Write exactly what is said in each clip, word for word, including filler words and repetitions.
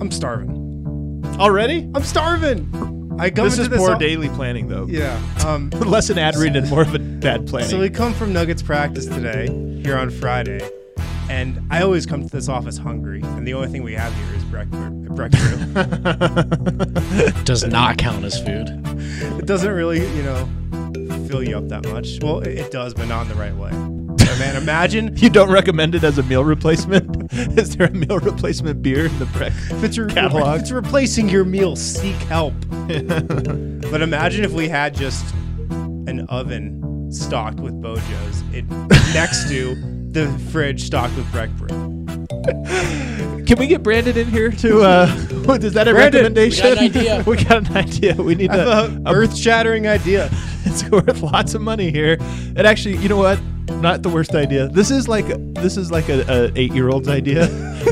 I'm starving. Already? I'm starving. I come This into is this more all- daily planning, though. Yeah. Um, Less an ad read and more of a bad planning. so we come from Nuggets practice today, here on Friday, and I always come to this office hungry, and the only thing we have here is breakfast. breakfast. Does not count as food. It doesn't really, you know, fill you up that much. Well, it, it does, but not in the right way. So, man, imagine You don't recommend it as a meal replacement? Is there a meal replacement beer in the brec if it's, re- catalog? if it's replacing your meal, seek help. But imagine if we had just an oven stocked with Bojos it, next to the fridge stocked with bread brew. Can we get Brandon in here to, uh, is that a Brandon, recommendation? we got an idea. We got an idea. We need I have to, an earth-shattering idea. it's worth lots of money here. It actually, you know what? Not the worst idea. This is like, this is like a, a eight-year-old's idea.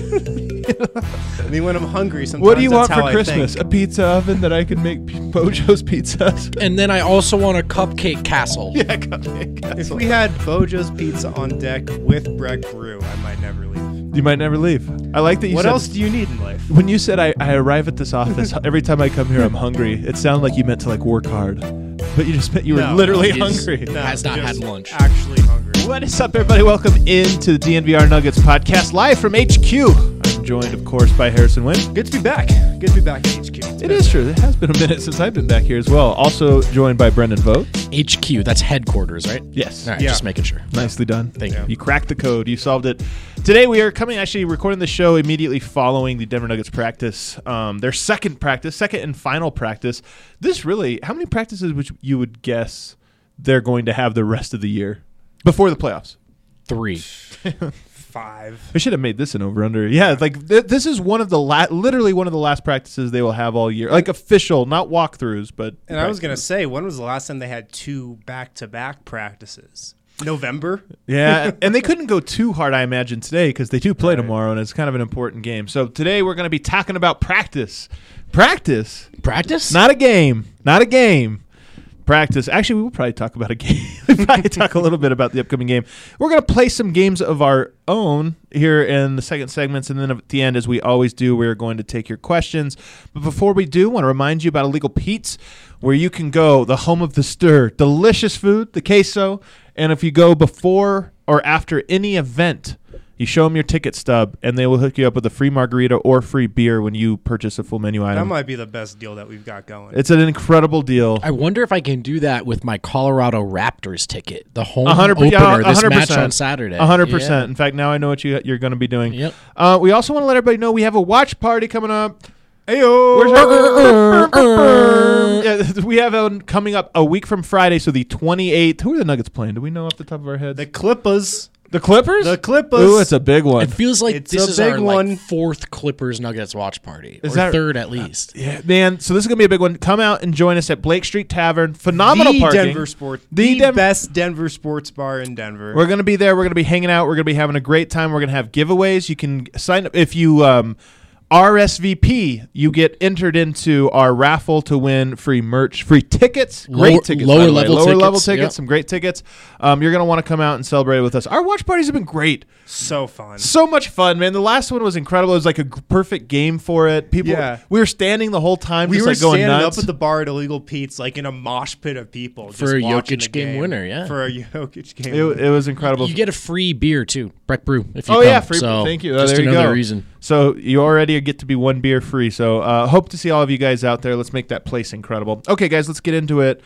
I mean, when I'm hungry, sometimes What do you that's want for how I Christmas? think. A pizza oven that I can make p- Bojo's pizzas? And then I also want a cupcake castle. Yeah, cupcake If castle. we had Bojo's Pizza on deck with bread brew, I might never leave. You might never leave. I like that you What said. else do you need in life? When you said I, I arrive at this office, every time I come here, I'm hungry. It sounded like you meant to like work hard, but you just meant you were No, literally he's- hungry. No, Has not just had lunch. Actually hungry. What is up, everybody? Welcome into the D N V R Nuggets podcast, live from H Q. I'm joined, of course, by Harrison Wynn. Good to be back. Good to be back at H Q. It's It been- is true. It has been a minute since I've been back here as well. Also joined by Brendan Vogt. H Q, that's headquarters, right? Yes. All right, Yeah. just making sure. Nicely done. Thank Yeah. you. You cracked the code. You solved it. Today we are coming, actually recording the show immediately following the Denver Nuggets practice, um, their second practice, second and final practice. This really, how many practices would you would guess they're going to have the rest of the year before the playoffs? Three. Five. I should have made this an over-under. Yeah, like th- this is one of the la- literally one of the last practices they will have all year. Like official, not walkthroughs, but And I was going to say, when was the last time they had two back-to-back practices? November? Yeah, and they couldn't go too hard, I imagine, today because they do play tomorrow, and it's kind of an important game. So today we're going to be talking about practice. Practice, Practice? not a game, not a game. Practice. Actually, we will probably talk about a game. We'll probably talk a little bit about the upcoming game. We're going to play some games of our own here in the second segments, and then at the end, as we always do, we're going to take your questions. But before we do, I want to remind you about Illegal Pete's, where you can go, the home of the stir. Delicious food, the queso, and if you go before or after any event, you show them your ticket stub, and they will hook you up with a free margarita or free beer when you purchase a full menu That item. might be the best deal that we've got going. It's an incredible deal. I wonder if I can do that with my Colorado Raptors ticket, the home A hundred per- opener yeah, a this hundred match percent. on Saturday. A hundred percent. In fact, now I know what you you're going to be doing. Yep. Uh, we also want to let everybody know we have a watch party coming up. Ayo! Where's our- yeah, we have one coming up a week from Friday, so the twenty-eighth. Who are the Nuggets playing? Do we know off the top of our heads? The Clippers. The Clippers. The Clippers. Ooh, it's a big one. It feels like It's this a is big our one. like fourth Clippers Nuggets watch party, Is or that- third at least. Yeah, man. So this is gonna be a big one. Come out and join us at Blake Street Tavern. Phenomenal the parking. Denver Sport. The The, Denver- best Denver sports bar in Denver. We're gonna be there. We're gonna be hanging out. We're gonna be having a great time. We're gonna have giveaways. You can sign up if you um, R S V P. You get entered into our raffle to win free merch, free tickets, great Lower- tickets, lower by the way. level lower level tickets, tickets, yep. some great tickets. Um, you're gonna want to come out and celebrate with us. Our watch parties have been great. so fun. So much fun, man. The last one was incredible. It was like a g- perfect game for it. People, Yeah. we were standing the whole time, We just were like going standing nuts. up at the bar at Illegal Pete's, like in a mosh pit of people. For just a watching Jokic the game winner, yeah. For a Jokic game it, winner. it was incredible. You get a free beer too, Breck Brew. If you Oh come. yeah, free. So thank you. Oh, Just there you another go. reason. So you already get to be one beer free. So uh, hope to see all of you guys out there. Let's make that place incredible. Okay, guys, let's get into it.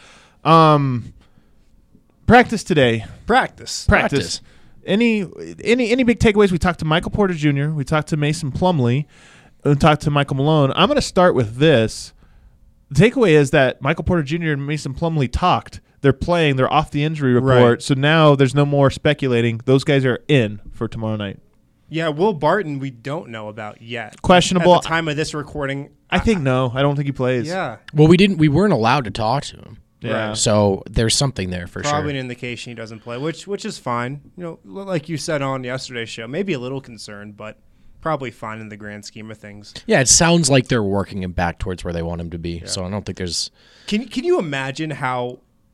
Um, practice today. Practice. Practice. Practice. Any any any big takeaways? We talked to Michael Porter Junior We talked to Mason Plumlee. We talked to Michael Malone. I'm going to start with this. The takeaway is that Michael Porter Junior and Mason Plumlee talked. They're playing. They're off the injury report. Right. So now there's no more speculating. Those guys are in for tomorrow night. Yeah, Will Barton, we don't know about yet. Questionable. At the time of this recording, I think no. I don't think he plays. Yeah, Well, we didn't. We weren't allowed to talk to him. Yeah. Right. So there's something there for probably sure. an indication he doesn't play, which which is fine. You know, like you said on yesterday's show, maybe a little concerned, but probably fine in the grand scheme of things. Yeah, it sounds like they're working him back towards where they want him to be. So I don't think there's. Can can you imagine how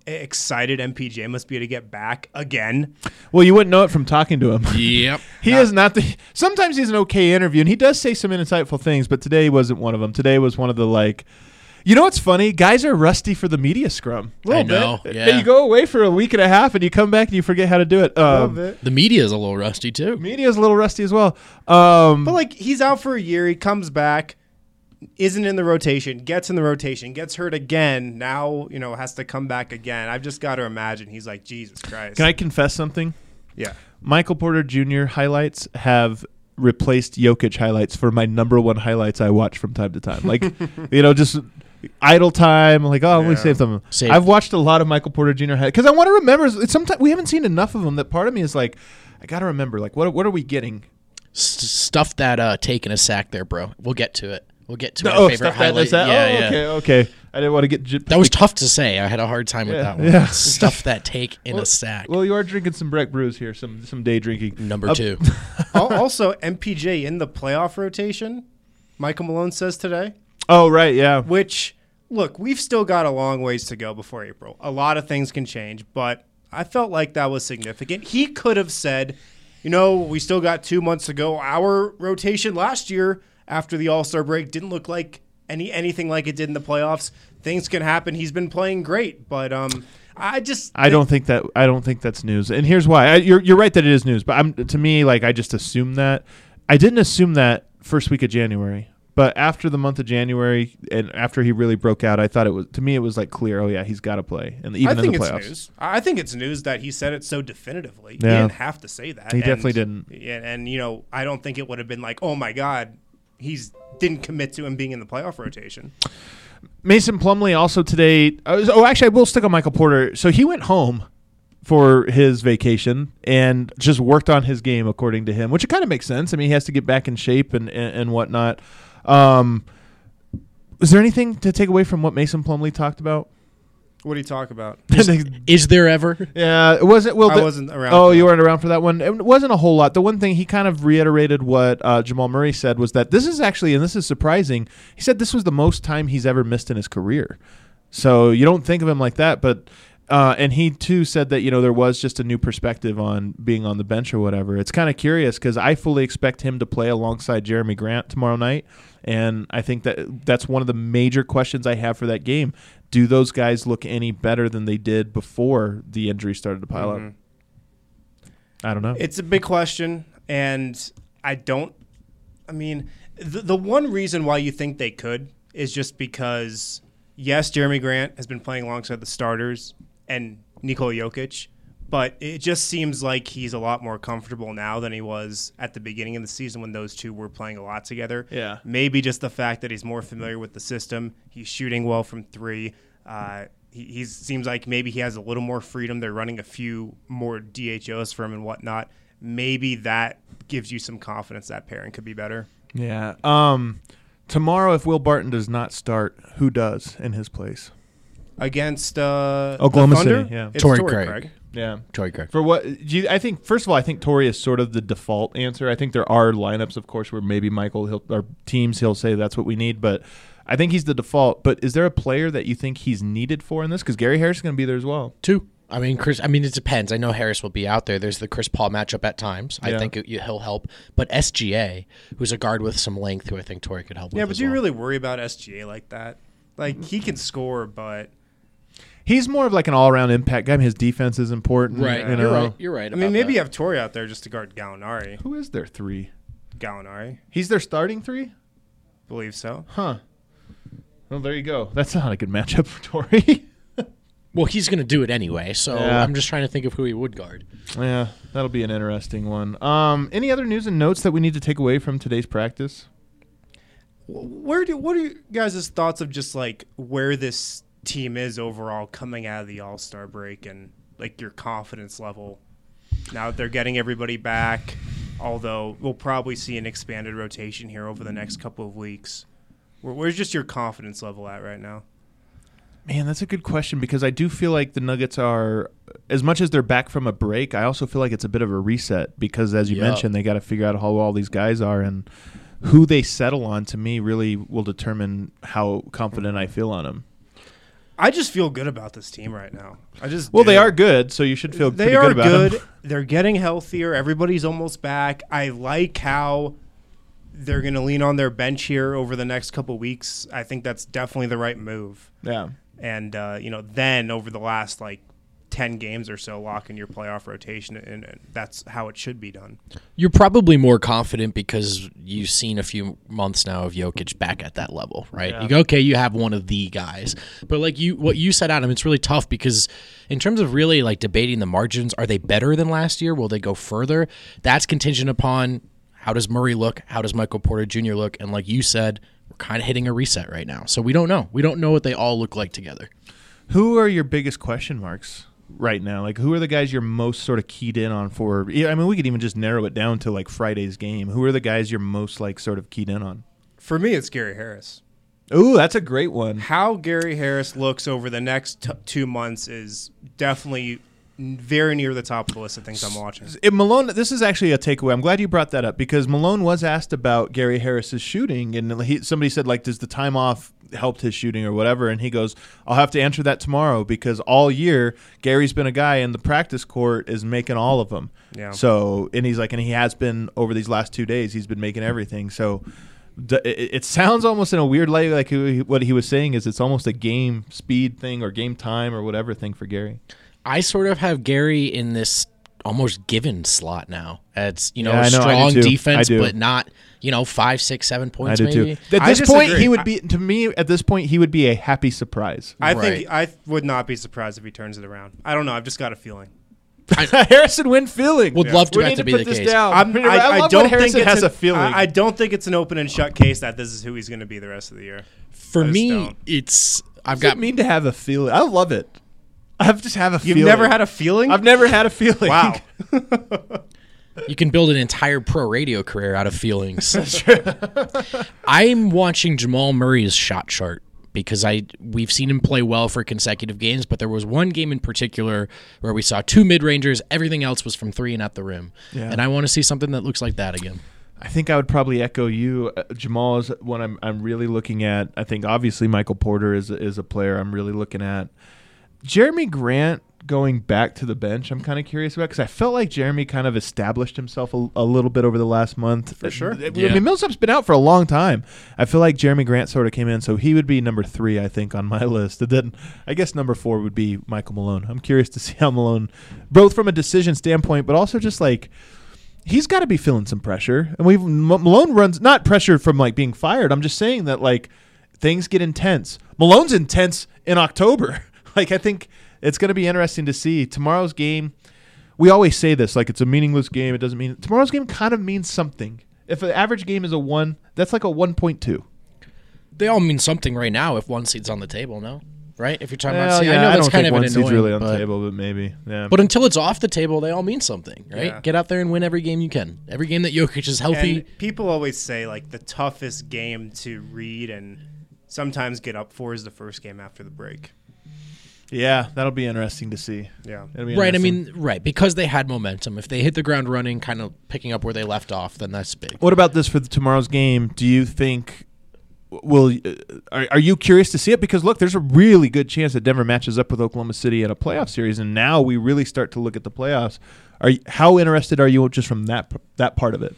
excited M P J must be to get back again. Well, you wouldn't know it from talking to him. Yep. He is not the. Sometimes he's an okay interview, and he does say some insightful things. But today wasn't one of them. Today was one of the like. You know what's funny? Guys are rusty for the media scrum. A little I know, bit. yeah. You go away for a week and a half, and you come back and you forget how to do it. A Um, little bit. The media is a little rusty too. Media's a little rusty as well. Um, But like he's out for a year, he comes back, isn't in the rotation, gets in the rotation, gets hurt again. Now you know has to come back again. I've just got to imagine he's like Jesus Christ. can I confess something? Yeah. Michael Porter Junior highlights have replaced Jokic highlights for my number one highlights I watch from time to time. Like, you know, just idle time. Like, oh, let me Yeah. save them. Save. I've watched a lot of Michael Porter Junior highlights because I want to remember. Sometimes we haven't seen enough of them that part of me is like, I got to remember. Like, what what are we getting? S- stuff that uh, taking a sack there, bro. We'll get to it. We'll get to No, my oh, favorite stuff that, highlight. that. Yeah, oh, yeah. okay, okay. I didn't want to get. J- That was tough to say. I had a hard time with Yeah, that one. yeah. Stuff that take in Well- a sack. Well, you are drinking some Breck brews here. Some some day drinking. Number Uh, two. Al- also, M P J in the playoff rotation. Michael Malone says today. Oh right, yeah. Which, look, we've still got a long ways to go before April. A lot of things can change, but I felt like that was significant. He could have said, you know, we still got two months to go. Our rotation last year after the All-Star break didn't look like any anything like it did in the playoffs. Things can happen. He's been playing great, but um, I just I don't think that I don't think that's news, and here's why. I, you're you're right that it is news, but I'm to me like I just assumed that. I didn't assume that first week of January, but after the month of January and after he really broke out, I thought it was to me it was like clear. Oh yeah, he's got to play, and even I think in the it's playoffs. news. I think it's news that he said it so definitively. Yeah. He didn't have to say that. He And- definitely didn't. And, and you know, I don't think it would have been like, oh my God, he's didn't commit to him being in the playoff rotation. Mason Plumlee also today. Uh, oh, actually, I will stick on Michael Porter. So he went home for his vacation and just worked on his game, according to him, which it kind of makes sense. I mean, he has to get back in shape and and, and whatnot. Um, is there anything to take away from what Mason Plumlee talked about? What do you talk about? Is there ever? Yeah, it wasn't. Well, I the- wasn't around Oh, for you that. weren't around for that one. It wasn't a whole lot. The one thing he kind of reiterated what uh, Jamal Murray said was that this is actually, and this is surprising. He said this was the most time he's ever missed in his career. So you don't think of him like that, but uh, and he too said that you know there was just a new perspective on being on the bench or whatever. It's kind of curious because I fully expect him to play alongside Jeremy Grant tomorrow night, and I think that that's one of the major questions I have for that game. Do those guys look any better than they did before the injury started to pile Mhm. up? I don't know. It's a big question, and I don't. I mean, the the one reason why you think they could is just because yes, Jeremy Grant has been playing alongside the starters and Nikola Jokic, but it just seems like he's a lot more comfortable now than he was at the beginning of the season when those two were playing a lot together. Yeah. Maybe just the fact that he's more familiar with the system. He's shooting well from three. Uh, he he's, seems like maybe he has a little more freedom. They're running a few more D H Os for him and whatnot. Maybe that gives you some confidence that pairing could be better. Yeah. Um, tomorrow, if Will Barton does not start, who does in his place? Against uh, Oklahoma the Thunder, City, yeah. it's Torrey Torrey Craig. Craig. Yeah. Troy Craig. For what do you, I think, first of all, I think Torrey is sort of the default answer. I think there are lineups, of course, where maybe Michael he'll, or teams he'll say that's what we need, but I think he's the default. But is there a player that you think he's needed for in this? Because Gary Harris is going to be there as well. Two. I mean, Chris. I mean, it depends. I know Harris will be out there. There's the Chris Paul matchup at times. Yeah. I think it, he'll help. But S G A, who's a guard with some length, who I think Torrey could help Yeah, with. but as do you well. really worry about S G A like that? Like he can score, but He's more of like an all-around impact guy. I mean, his defense is important. Right. You know? You're right. You're right. I mean, about maybe that. you have Torrey out there just to guard Gallinari. Who is their three? Gallinari, He's their starting three? believe so. Huh. Well, there you go. That's not a good matchup for Torrey. Well, he's going to do it anyway. So Yeah. I'm just trying to think of who he would guard. Yeah, that'll be an interesting one. Um, any other news and notes that we need to take away from today's practice? Where do what are you guys' thoughts of just like where this team is overall coming out of the All-Star break and like your confidence level now that they're getting everybody back, although we'll probably see an expanded rotation here over the next couple of weeks. Where, where's just your confidence level at right now? Man, that's a good question because I do feel like the Nuggets are, as much as they're back from a break, I also feel like it's a bit of a reset because, as you Yeah. mentioned, they got to figure out how all these guys are and who they settle on. To me, really will determine how confident I feel on them. I just feel good about this team right now. I just Well, do. they are good, so you should feel They pretty are good about good. them. They're getting healthier. Everybody's almost back. I like how they're going to lean on their bench here over the next couple weeks. I think that's definitely the right move. Yeah. And, uh, you know, then over the last, like, ten games or so, lock in your playoff rotation, and, and that's how it should be done. You're probably more confident because you've seen a few months now of Jokic back at that level, right? Yeah. You go, okay, you have one of the guys. But like you, what you said, Adam, it's really tough because in terms of really like debating the margins, are they better than last year? Will they go further? That's contingent upon how does Murray look? How does Michael Porter Junior look? And like you said, we're kind of hitting a reset right now. So we don't know. We don't know what they all look like together. Who are your biggest question marks right now? Like, who are the guys you're most sort of keyed in on for? Yeah, I mean, we could even just narrow it down to like Friday's game. Who are the guys you're most like sort of keyed in on? For me, it's Gary Harris. Ooh, that's a great one. How Gary Harris looks over the next t- two months is definitely very near the top of the list of things I'm watching. It, Malone, this is actually a takeaway. I'm glad you brought that up because Malone was asked about Gary Harris's shooting, and he, somebody said, like, does the time off helped his shooting or whatever? And he goes, I'll have to answer that tomorrow because all year Gary's been a guy in the practice court is making all of them. Yeah. So, and he's like, and he has been over these last two days, he's been making everything. So d- it, it sounds almost in a weird way like he, what he was saying is it's almost a game speed thing or game time or whatever thing for Gary. I sort of have Gary in this almost given slot now. It's, you know, Yeah, I know, I strong do too. defense, I do. but not, you know, five, six, seven I points do maybe. too. At I this point, disagree. he would I- be, to me, at this point, he would be a happy surprise. I Right. think I would not be surprised if he turns it around. I don't know. I've just got a feeling. Harrison Wynn feeling. Would love to we that need to to be put the this case. down. I'm, I, I, I love don't when Harrison think it's has an, a feeling. I, I don't think it's an open and shut case that this is who he's going to be the rest of the year. For I just me, don't. it's I've Does it got mean to have a feeling? I love it. I've just have a You've feeling. never had a feeling? I've never had a feeling. Wow. You can build an entire pro radio career out of feelings. I'm watching Jamal Murray's shot chart because I we've seen him play well for consecutive games, but there was one game in particular where we saw two mid-rangers. Everything else was from three and at the rim. Yeah. And I want to see something that looks like that again. I think I would probably echo you. Uh, Jamal is one I'm I'm really looking at. I think obviously Michael Porter is is a player I'm really looking at. Jeremy Grant going back to the bench, I'm kind of curious about because I felt like Jeremy kind of established himself a, a little bit over the last month. For sure. I Yeah. mean, Millsap's been out for a long time. I feel like Jeremy Grant sort of came in, so he would be number three, I think, on my list. And then I guess number four would be Michael Malone. I'm curious to see how Malone, both from a decision standpoint, but also just like he's got to be feeling some pressure. And we've M- Malone runs not pressure from like being fired. I'm just saying that like things get intense. Malone's intense in October. Like I think it's going to be interesting to see tomorrow's game. We always say this, like it's a meaningless game. It doesn't mean tomorrow's game kind of means something. If the average game is a one, that's like a one point two. They all mean something right now if one seed's on the table, no? Right? If you're talking Well, about seed, yeah, I know I that's don't kind think of an one seed's annoying, really on but, the table, but maybe. Yeah. but until it's off the table, they all mean something, right? Yeah. Get out there and win every game you can. Every game that Jokic is healthy. And people always say like the toughest game to read and sometimes get up for is the first game after the break. yeah, that'll be interesting to see. Yeah. It'll be Right, I interesting. mean, right, because they had momentum. If they hit the ground running, kind of picking up where they left off, then that's big. What about this for the, tomorrow's game? Do you think will uh, are, are you curious to see it? Because look, there's a really good chance that Denver matches up with Oklahoma City in a playoff series, and now we really start to look at the playoffs. Are you, how interested are you just from that that part of it?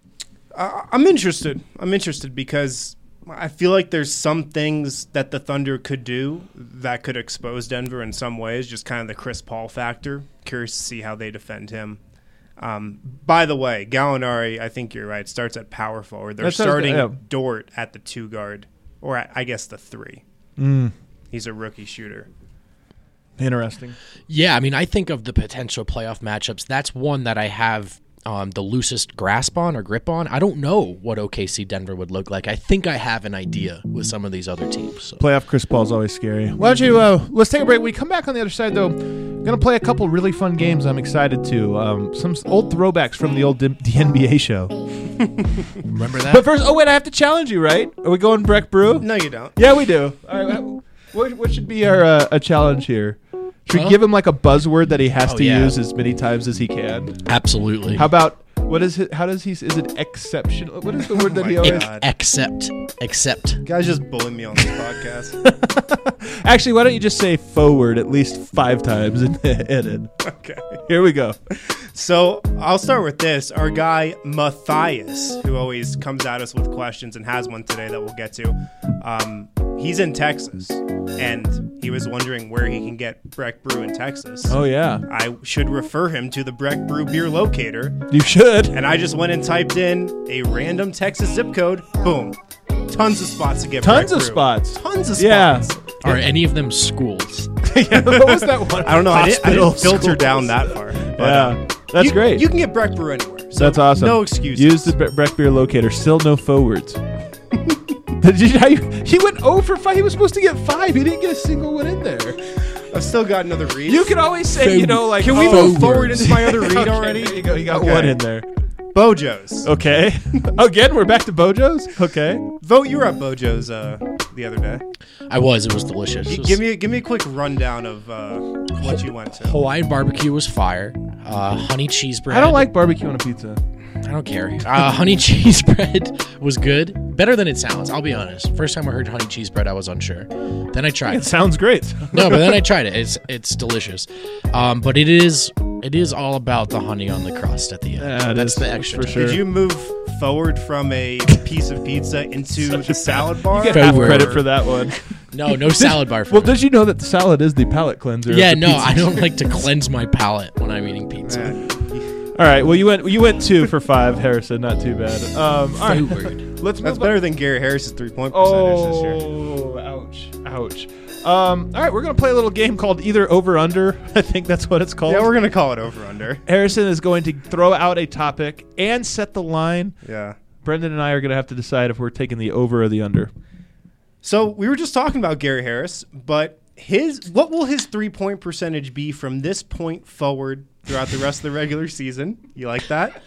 Uh, I'm interested. I'm interested because I feel like there's some things that the Thunder could do that could expose Denver in some ways, just kind of the Chris Paul factor. Curious to see how they defend him. Um, by the way, Gallinari, I think you're right, starts at power forward. They're That sounds starting good, yeah. Dort at the two guard, or at, I guess the three. Mm, He's a rookie shooter. interesting. Yeah, I mean, I think of the potential playoff matchups. That's one that I have um, the loosest grasp on or grip on. I don't know what O K C Denver would look like. I think I have an idea with some of these other teams. So. Playoff Chris Paul's always scary. Why don't you, uh, let's take a break. When we come back on the other side, though, going to play a couple really fun games I'm excited to. Um, some s- old throwbacks from the old D- the N B A show. Remember that? But first, oh, wait, I have to challenge you, right? Are we going Breck Brew? No, you don't. Yeah, we do. All right, what, what should be our uh, a challenge here? Should we Huh? give him like a buzzword that he has Oh, to yeah. use as many times as he can? Absolutely. How about What is it? How does he? Is it exceptional? What is the word Oh that he my always? God. Accept. Accept. Guys just bullying me on this podcast. Actually, why don't you just say forward at least five times in the edit? Okay. Here we go. So I'll start with this. Our guy Matthias, who always comes at us with questions and has one today that we'll get to. Um, he's in Texas, and he was wondering where he can get Breck Brew in Texas. Oh yeah, I should refer him to the Breck Brew beer locator. you should. And I just went and typed in a random Texas zip code. Boom. Tons of spots to get Tons Breck of Brew. spots. Tons of Yeah. spots. Are any of them schools? Yeah, what was that one? I don't know. I didn't, I Hospital didn't filter schools. down that far. But, Yeah, um, that's you, great. You can get Breck Brew anywhere. So That's awesome. No excuses. Use the Bre- Breck beer locator. Still no forwards. Did you, how you, he went zero for five. He was supposed to get five. He didn't get a single one in there. I've still got another read. You can always say, you know, like, Can we oh, move forward into my other read okay, already? There you go. You got Okay. one in there. Bojo's. Okay. Again, we're back to Bojo's. Okay. Vote, you were at Bojo's uh, the other day. I was. It was delicious. G- It was- give me give me a quick rundown of uh, what you went to. Hawaiian barbecue was fire. Uh, honey cheese bread. I don't like barbecue on a pizza. I don't care. Uh, honey cheese bread was good. Better than it sounds. I'll be honest. First time I heard honey cheese bread, I was unsure. Then I tried It it. sounds great. No, but then I tried it. It's it's delicious. Um, but it is it is all about the honey on the crust at the end. Yeah, it That's is, the extra. for touch. sure. Did you move forward from a piece of pizza into the salad bar? You get half Forward. credit for that one. No, no salad bar. For Well, me. did you know that the salad is the palate cleanser? of Yeah, the no, pizza? I don't like to cleanse my palate when I'm eating pizza. Man, All right. Well, you went you went two for five, Harrison. Not too bad. Um, all right. Forward. Let's that's move better than Gary Harris's three point percentage this year. Oh, ouch, ouch. Um, all right, we're gonna play a little game called Either Over Under. I think that's what it's called. Yeah, we're gonna call it over under. Harrison is going to throw out a topic and set the line. Yeah. Brendan and I are gonna have to decide if we're taking the over or the under. So we were just talking about Gary Harris, but his what will his three point percentage be from this point forward throughout the rest of the regular season? You like that?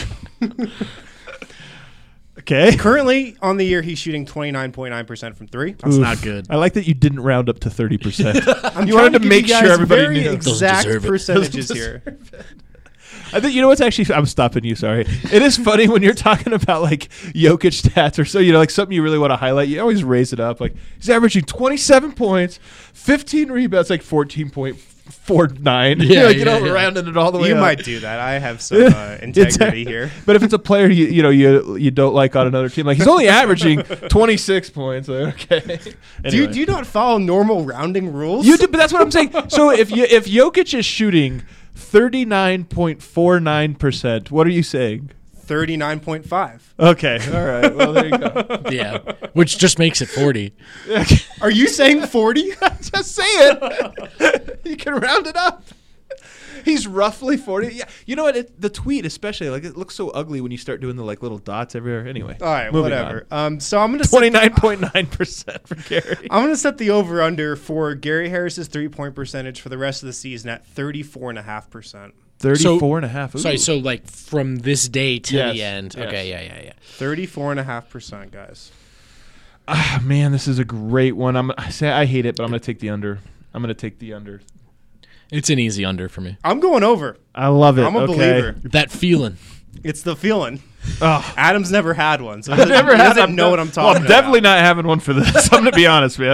Okay. Currently on the year, he's shooting twenty-nine point nine percent from three. That's Oof. not good. I like that you didn't round up to thirty percent. I'm You trying wanted to give make you sure guys everybody very knew. exact deserve it. percentages Doesn't here. I think you know what's actually. I'm stopping you. Sorry. It is funny when you're talking about like Jokic stats or so. You know, like something you really want to highlight. You always raise it up. Like he's averaging twenty-seven points, fifteen rebounds, like fourteen point four nine. Yeah, like, you yeah, know, yeah. rounding it all the way You up. might do that. I have some uh, integrity here. But if it's a player you you know you you don't like on another team, like he's only averaging twenty-six points. Like, okay. Do, you, Anyway. do you not follow normal rounding rules? You do, but that's what I'm saying. So if you if Jokic is shooting thirty-nine point four nine percent, what are you saying? thirty-nine point five. Okay, all right. Well, there you go. Yeah, which just makes it forty. Are you saying forty? Just say it. You can round it up. He's roughly forty. Yeah, you know what? It, the tweet, especially, like it looks so ugly when you start doing the like little dots everywhere. Anyway, All right, moving whatever. Um, so I'm gonna Twenty-nine point nine percent for Gary. I'm gonna set the over under for Gary Harris's three point percentage for the rest of the season at thirty-four and a half percent. Thirty-four and a half. Sorry, Ooh. so like from this day to Yes, the end. yes. Okay, yeah, yeah, yeah. Thirty-four and a half percent, guys. Ah, man, this is a great one. I'm I say I hate it, but I'm gonna take the under. I'm gonna take the under. It's an easy under for me. I'm going over. I love it. I'm a okay. believer. That feeling. It's the feeling. Oh, Adam's never had one, so he I've doesn't, never he had. doesn't I'm know de- what I'm well, talking I'm definitely about. not having one for this. I'm gonna be honest, man.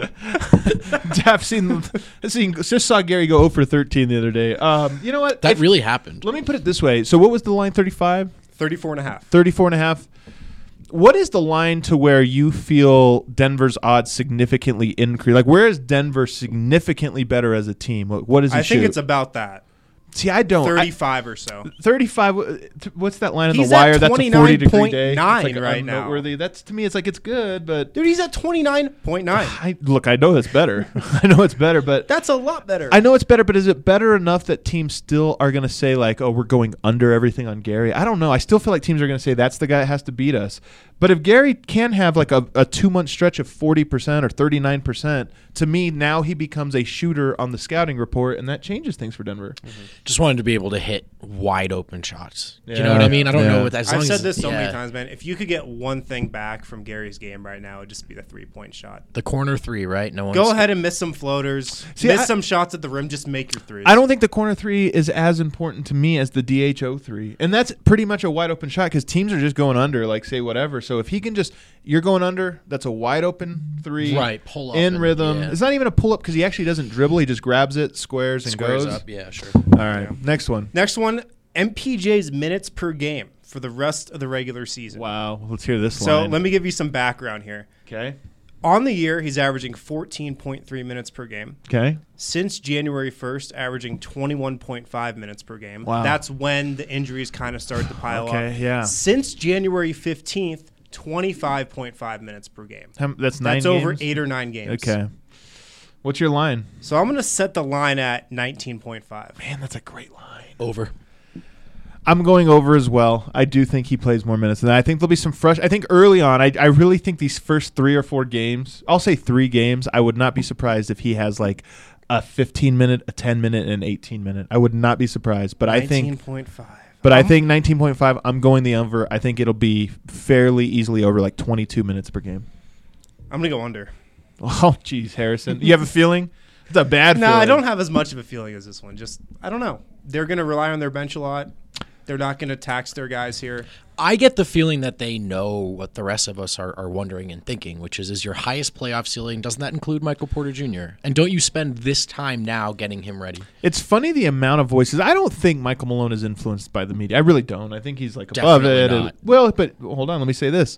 I've seen, I've seen, just saw Gary go zero for thirteen the other day. Um, you know what? That If- really happened. Let me put it this way. So, what was the line? thirty-five, thirty-four and a half. thirty-four and a half. What is the line to where you feel Denver's odds significantly increase? Like, where is Denver significantly better as a team? What, what does he I shoot? think it's about that. See, I don't. I- thirty-five or so. thirty-five. uh, t- What's that line on He's the at wire? That's a forty degree day. It's twenty-nine like right now. unnoteworthy. That's to me. It's like it's good, but Dude, he's at twenty-nine point nine. I look. I know it's better. I know it's better, but That's a lot better. I know it's better. But is it better enough that teams still are going to say like, "Oh, we're going under everything on Gary"? I don't know. I still feel like teams are going to say that's the guy that has to beat us. But if Gary can have like a, a two-month stretch of forty percent or thirty-nine percent, to me, now he becomes a shooter on the scouting report, and that changes things for Denver. Mm-hmm. Just wanted to be able to hit wide open shots. Yeah. You know what I mean? I don't Yeah. know what as long I've said as, this so yeah, many times, man. If you could get one thing back from Gary's game right now, it'd just be the three-point shot. The corner three, right? No one. Go ahead and miss some floaters, See, miss I- some shots at the rim, just make your threes. I don't think the corner three is as important to me as the D H O three. And that's pretty much a wide open shot because teams are just going under, like say whatever. So if he can just, you're going under, that's a wide open three. Right, pull up in and- rhythm. yeah. It's not even a pull up because he actually doesn't dribble. He just grabs it, squares, and Squares goes. up. Yeah, sure. All right, Yeah. next one. Next one, M P J's minutes per game for the rest of the regular season. Wow, let's hear this So line. let me give you some background here. Okay. On the year, he's averaging fourteen point three minutes per game. Okay. Since January first, averaging twenty-one point five minutes per game. Wow. That's when the injuries kind of started to pile Okay, up. yeah. Since January fifteenth, twenty-five point five minutes per game. How- That's nine That's over games? eight or nine games. Okay. What's your line? So I'm going to set the line at nineteen point five. Man, that's a great line. Over. I'm going over as well. I do think he plays more minutes than that. I think there'll be some fresh. I think early on, I, I really think these first three or four games, I'll say three games, I would not be surprised if he has like a fifteen minute, a ten minute, and an eighteen minute. I would not be surprised. But I think, nineteen point five. but I Um, think nineteen point five, I'm going the over. I think it'll be fairly easily over like twenty-two minutes per game. I'm going to go under. Oh, geez, Harrison. You have a feeling? It's a bad No, feeling. I don't have as much of a feeling as this one. Just, I don't know. They're going to rely on their bench a lot. They're not going to tax their guys here. I get the feeling that they know what the rest of us are, are wondering and thinking, which is, is your highest playoff ceiling, doesn't that include Michael Porter Junior? And don't you spend this time now getting him ready? It's funny the amount of voices. I don't think Michael Malone is influenced by the media. I really don't. I think he's like above Definitely it. not. And- well, but hold on. Let me say this.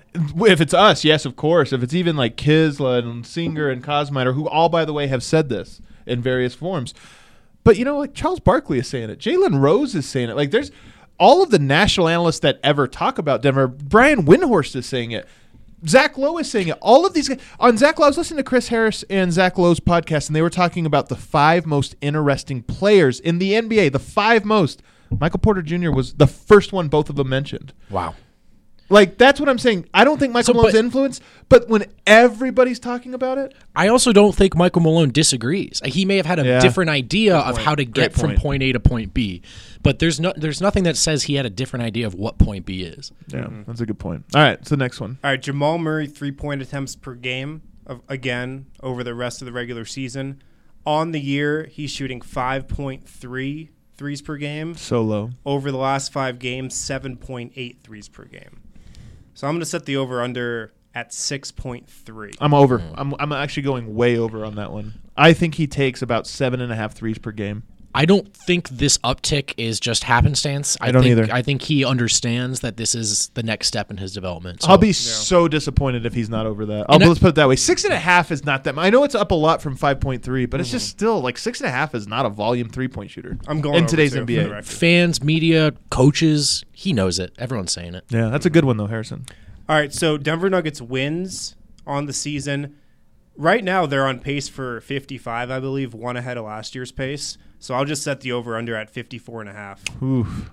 If it's us, yes, of course. If it's even like Kisla and Singer and Cosmiter, who all, by the way, have said this in various forms. But, you know, like Charles Barkley is saying it. Jalen Rose is saying it. Like there's all of the national analysts that ever talk about Denver. Brian Windhorst is saying it. Zach Lowe is saying it. All of these guys. On Zach Lowe, I was listening to Chris Harris and Zach Lowe's podcast, and they were talking about the five most interesting players in the N B A. The five most. Michael Porter Junior was the first one both of them mentioned. Wow. Like, that's what I'm saying. I don't think Michael So, Malone's but- influence, but when everybody's talking about it, I also don't think Michael Malone disagrees. He may have had a Yeah. different idea of how to get Great from point. point A to point B, but there's no there's nothing that says he had a different idea of what point B is. yeah, that's a good point. All right, so the next one. All right, Jamal Murray, three-point attempts per game, of, again, over the rest of the regular season. On the year, he's shooting five point three threes per game. So low. Over the last five games, seven point eight threes per game. So I'm going to set the over-under at six point three. I'm over. I'm I'm actually going way over on that one. I think he takes about seven and a half threes per game. I don't think this uptick is just happenstance. I, I don't think, either. I think he understands that this is the next step in his development. So I'll be so disappointed if he's not over that. I'll, And I- let's put it that way. Six and a half is not that much. I know it's up a lot from five point three, but it's just still like six and a half is not a volume three point shooter. I'm going in over today's too, N B for A. the record. fans, media, coaches, he knows it. Everyone's saying it. Yeah, that's a good one though, Harrison. All right, so Denver Nuggets wins on the season. Right now, they're on pace for fifty-five, I believe, one ahead of last year's pace. So I'll just set the over-under at fifty-four and a half. Oof.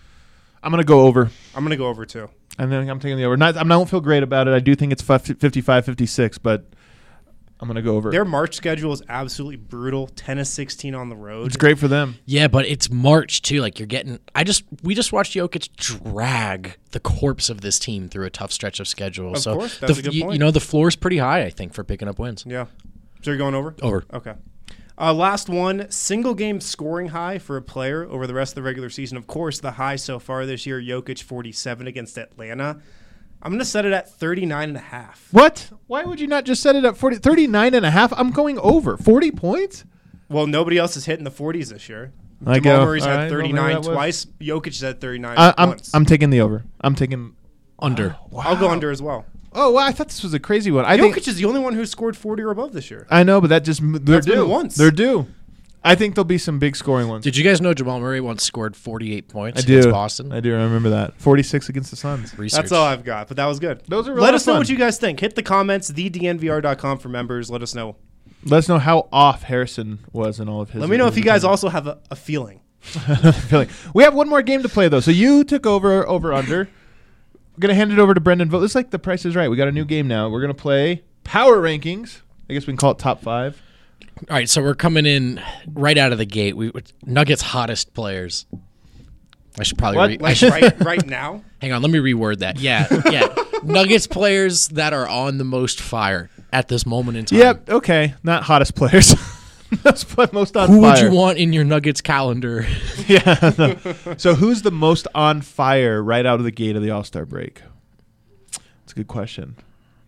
I'm gonna go over. I'm going to go over, too. And then I'm taking the over. Not, I don't feel great about it. I do think it's fifty-five, fifty-six, but I'm going to go over. Their March schedule is absolutely brutal. ten of sixteen on the road. It's great for them. Yeah, but it's March too. Like you're getting. I just we just watched Jokic drag the corpse of this team through a tough stretch of schedule. Of so course, that's the, a good you, point. you know the floor's pretty high. I think for picking up wins. Yeah. So you're going over? Over. Okay. Uh, last one, single game scoring high for a player over the rest of the regular season. Of course, the high so far this year, Jokic forty-seven against Atlanta. I'm going to set it at thirty-nine and a half. What? Why would you not just set it at forty, thirty-nine and a half? I'm going over. forty points? Well, nobody else is hitting the forties this year. I Jamal go. Murray's All had right, well, maybe thirty-nine that was- twice. Jokic had thirty-nine I, I'm once. I'm taking the over. I'm taking Under. I'll go under as well. Oh, wow, I thought this was a crazy one. I Jokic think is the only one who scored forty or above this year. I know, but that just they're That's been due. once. They're due. I think there'll be some big scoring ones. Did you guys know Jamal Murray once scored forty-eight points I do. against Boston? I do remember that. forty-six against the Suns. Research. That's all I've got, but that was good. Those are a Let lot us of know fun. what you guys think. Hit the comments, the d n v r dot com for members. Let us know. Let us know how off Harrison was in all of his. Let me know if you guys his- also have a, a feeling. feeling. We have one more game to play though. So you took over over under. I'm going to hand it over to Brendan Vogt. This is like The Price is Right. We got a new game now. We're going to play Power Rankings. I guess we can call it Top Five. All right, so we're coming in right out of the gate. We Nuggets hottest players. I should probably What? re- I Like should, right, right now. hang on. Let me reword that. Yeah, yeah. Nuggets players that are on the most fire at this moment in time. Yep. Okay. Not hottest players. Most most on Who fire. would you want in your Nuggets calendar? Yeah. No. So who's the most on fire right out of the gate of the All-Star break? That's a good question.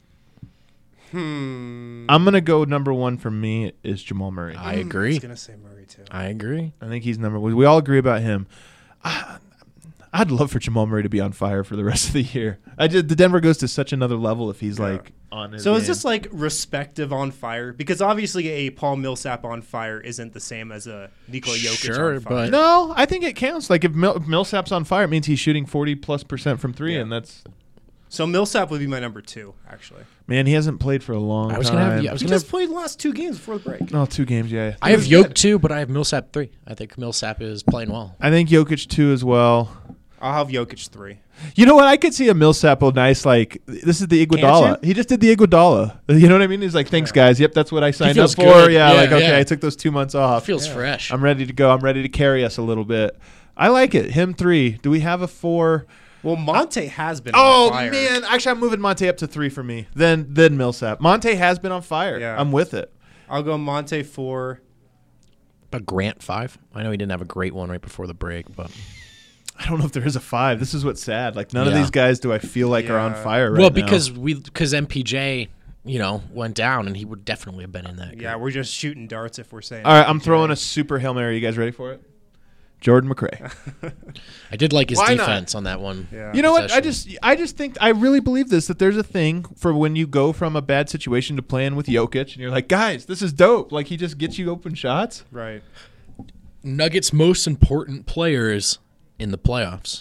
Hmm. I'm going to go number one for me is Jamal Murray. I I agree. was gonna say Murray too. I agree. I think he's number one. We all agree about him. I, I'd love for Jamal Murray to be on fire for the rest of the year. I did, the Denver goes to such another level if he's Yeah. like on his So is game. this like respective on fire? Because obviously a Paul Millsap on fire isn't the same as a Nikola Jokic Sure, on fire. but- No, I think it counts. Like if, Mil- if Millsap's on fire, it means he's shooting forty plus percent from three, Yeah. and that's So Millsap would be my number two, actually. man. He hasn't played for a long I was time. gonna have. I was He gonna. just Have, played the last two games before the break. Oh, two games, yeah. I have He was Yoke good. two, but I have Millsap three. I think Millsap is playing well. I think Jokic two as well. I'll have Jokic three. You know what? I could see a Millsap a nice like. This is the Iguodala. Can't you? He just did the Iguodala. You know what I mean? He's like, thanks, Yeah. guys. Yep, that's what I signed up feels for. good. Yeah, Yeah, like okay, yeah. I took those two months off. Feels Yeah. fresh. I'm ready to go. I'm ready to carry us a little bit. I like it. Him three. Do we have a four? Well, Monte has been Oh on fire. man, actually, I'm moving Monte up to three for me. Then then Millsap. Monte has been on fire. Yeah. I'm with it. I'll go Monte four. A Grant five. I know he didn't have a great one right before the break, but I don't know if there is a five. This is what's sad. Like none of Yeah. these guys do I feel like are on Yeah. fire right well, now. because we because M P J, you know, went down, and he would definitely have been in that. Yeah, we're just shooting darts if we're saying. All right, I'm M P J. throwing a super Hail Mary. You guys ready for it? Jordan McRae. I did like his Why not? defense on that one. Yeah. You know what? I possession. just I just think I really believe this that there's a thing for when you go from a bad situation to playing with Jokic and you're like, guys, this is dope. Like he just gets you open shots. Right. Nuggets' most important players in the playoffs.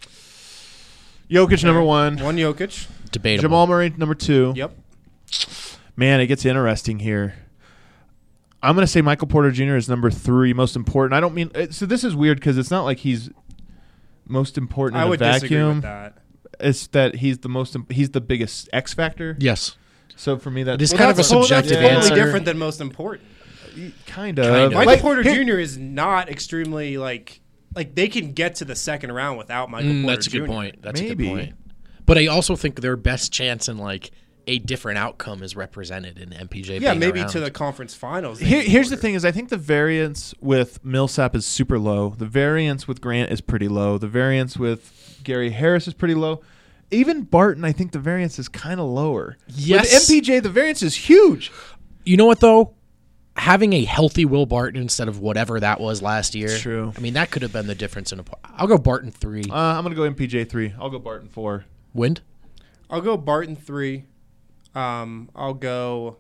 Jokic number one. One Jokic. Debatable. Jamal Murray number two. Yep. Man, it gets interesting here. I'm going to say Michael Porter Junior is number three, most important. I don't mean uh, so. This is weird because it's not like he's most important I in would a disagree vacuum. with that. It's that he's the most. im- He's the biggest X factor. Yes. So for me, that It is Well, kind of a that's, well, subjective that's totally answer. different than most important. kind of. Kind of. Michael Like, Porter here- Junior is not extremely like like they can get to the second round without Michael Mm, Porter that's a Junior good point. That's Maybe. a good point. But I also think their best chance in like a different outcome is represented in M P J. Yeah, being maybe around. to the conference finals. they Here, need here's the Porter. thing: is I think the variance with Millsap is super low. The variance with Grant is pretty low. The variance with Gary Harris is pretty low. Even Barton, I think the variance is kind of lower. Yes. With M P J, the variance is huge. You know what though? Having a healthy Will Barton instead of whatever that was last year. It's true. I mean, that could have been the difference in a. I'll go Barton three. Uh, I'm gonna go M P J three. I'll go Barton four. Wind. I'll go Barton three. Um, I'll go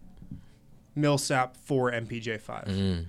Millsap four, M P J five. Mm.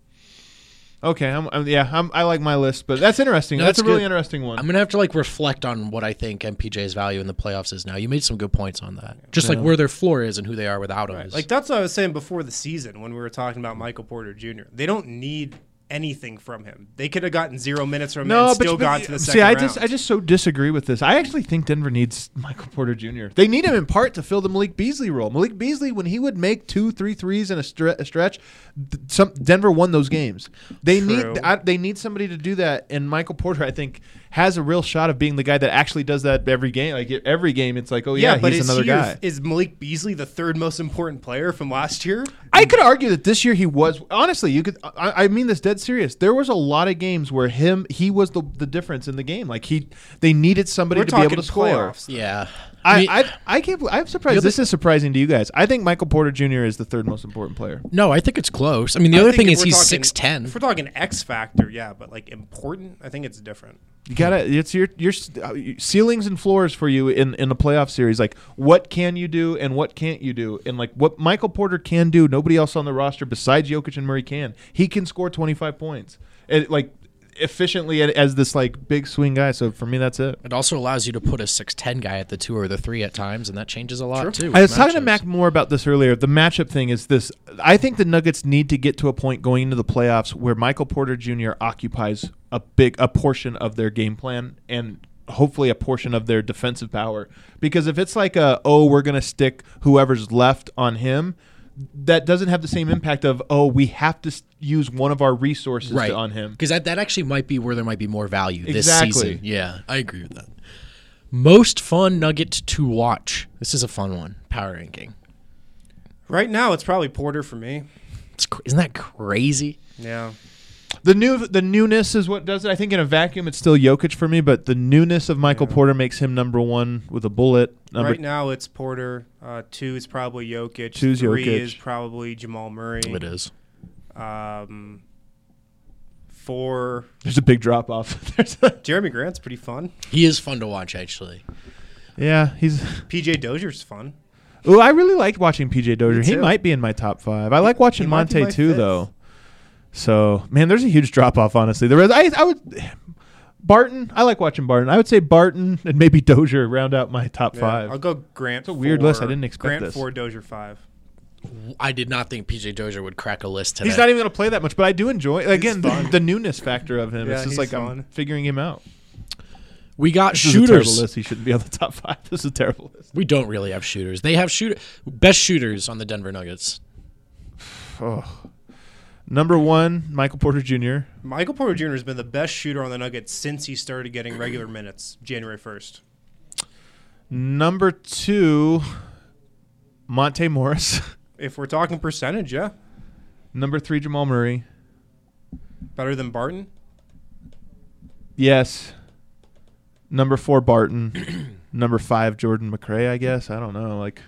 Okay, I'm, I'm, yeah, I'm, I like my list, but that's interesting. No, that's, that's a really good. interesting one. I'm gonna have to like reflect on what I think M P J's value in the playoffs is now. You made some good points on that. Just like Yeah. where their floor is and who they are without him. Right. is- Like that's what I was saying before the season when we were talking about Michael Porter Junior They don't need anything from him. They could have gotten zero minutes from him and still but- got to the see, second I round. just, I just so disagree with this. I actually think Denver needs Michael Porter Junior They need him in part to fill the Malik Beasley role. Malik Beasley, when he would make two, three threes in a, stre- a stretch, th- some Denver won those games. They True. need, I, they need somebody to do that, and Michael Porter, I think, has a real shot of being the guy that actually does that every game. Like every game, it's like, oh yeah, but he's is another he your- guy. Is Malik Beasley the third most important player from last year? I could argue that this year he was honestly. You could. I, I mean this dead serious. There was a lot of games where him he was the the difference in the game. Like he, they needed somebody We're to be able talking to score. playoffs. yeah. I, mean, I I can't. believe- I'm surprised. The other- This is surprising to you guys. I think Michael Porter Junior is the third most important player. no, I think it's close. I mean, the I other think thing if is we're he's talking- six ten. If we're talking X factor, yeah, but like important, I think it's different. You gotta. It's your your uh, ceilings and floors for you in in the playoff series. Like what can you do and what can't you do, and like what Michael Porter can do, nobody else on the roster besides Jokic and Murray can. He can score twenty-five points, and like efficiently as this like big swing guy. So for me, that's it. It also allows you to put a six ten guy at the two or the three at times, and that changes a lot True. too. I was with talking to matchups. Mac more about this earlier. The matchup thing is this. I think the Nuggets need to get to a point going into the playoffs where Michael Porter Junior occupies a big a portion of their game plan and hopefully a portion of their defensive power. Because if it's like a, oh, we're going to stick whoever's left on him, that doesn't have the same impact of, oh, we have to s- use one of our resources right to, on him. Because that, that actually might be where there might be more value this Exactly. season. Yeah, I agree with that. Most fun Nugget to watch. This is a fun one. Power ranking. Right now, it's probably Porter for me. It's, cr- isn't that crazy? Yeah. The new the newness is what does it. I think in a vacuum it's still Jokic for me, but the newness of Michael Yeah. Porter makes him number one with a bullet. Number Right now, it's Porter. Uh, two is probably Jokic. Two's Three Jokic. is probably Jamal Murray. It is. Um, four. There's a big drop off. There's a, Jeremy Grant's pretty fun. He is fun to watch, actually. yeah, he's. P J Dozier's fun. Oh, I really liked watching P J Dozier. Me He too. might be in my top five. I like watching He might be Monte my too, fifth. though. So, man, there's a huge drop off. Honestly, there is. I, I would. Barton, I like watching Barton. I would say Barton and maybe Dozier round out my top Yeah, five. I'll go Grant. It's a weird four, list. I didn't expect Grant this. four, Dozier five. I did not think P J Dozier would crack a list today. He's not even going to play that much, but I do enjoy again the, fun. the newness factor of him. Yeah, it's just he's like fun. I'm figuring him out. We got This is a terrible shooters. list. He shouldn't be on the top five. This is a terrible list. We don't really have shooters. They have shooter best shooters on the Denver Nuggets. Oh. Number one, Michael Porter Junior Michael Porter Junior has been the best shooter on the Nuggets since he started getting regular minutes, January first. Number two, Monte Morris. If we're talking percentage, yeah. Number three, Jamal Murray. Better than Barton? Yes. Number four, Barton. Number five, Jordan McRae, I guess. I don't know. Like,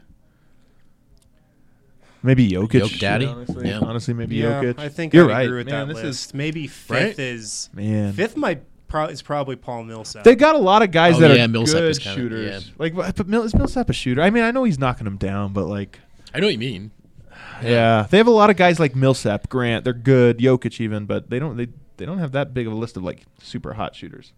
maybe Jokic. Yoke Daddy? Honestly, Yeah. honestly maybe Yeah, Jokic. I think You're I right. agree with Man, that this list. is Maybe fifth Right? is man. fifth. Might pro- is probably Paul Millsap. They got a lot of guys Oh, that yeah, are Millsap good is kinda- shooters. yeah. Like, but Mill, is Millsap a shooter? I mean, I know he's knocking them down, but like, I know what you mean. yeah, they have a lot of guys like Millsap, Grant. They're good, Jokic even, but they don't they they don't have that big of a list of like super hot shooters.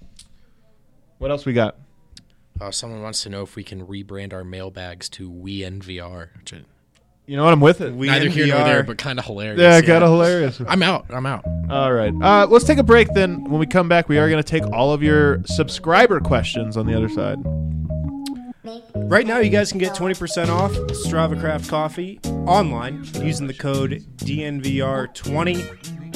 What else we got? Uh, someone wants to know if we can rebrand our mailbags to We N V R. Which is You know what? I'm with it. We neither here nor N V R. there, but kind of hilarious. yeah, kind of hilarious. I'm out. I'm out. All right. Uh, let's take a break then. When we come back, we are going to take all of your subscriber questions on the other side. Right now, you guys can get twenty percent off Strava Craft Coffee online using the code D N V R twenty.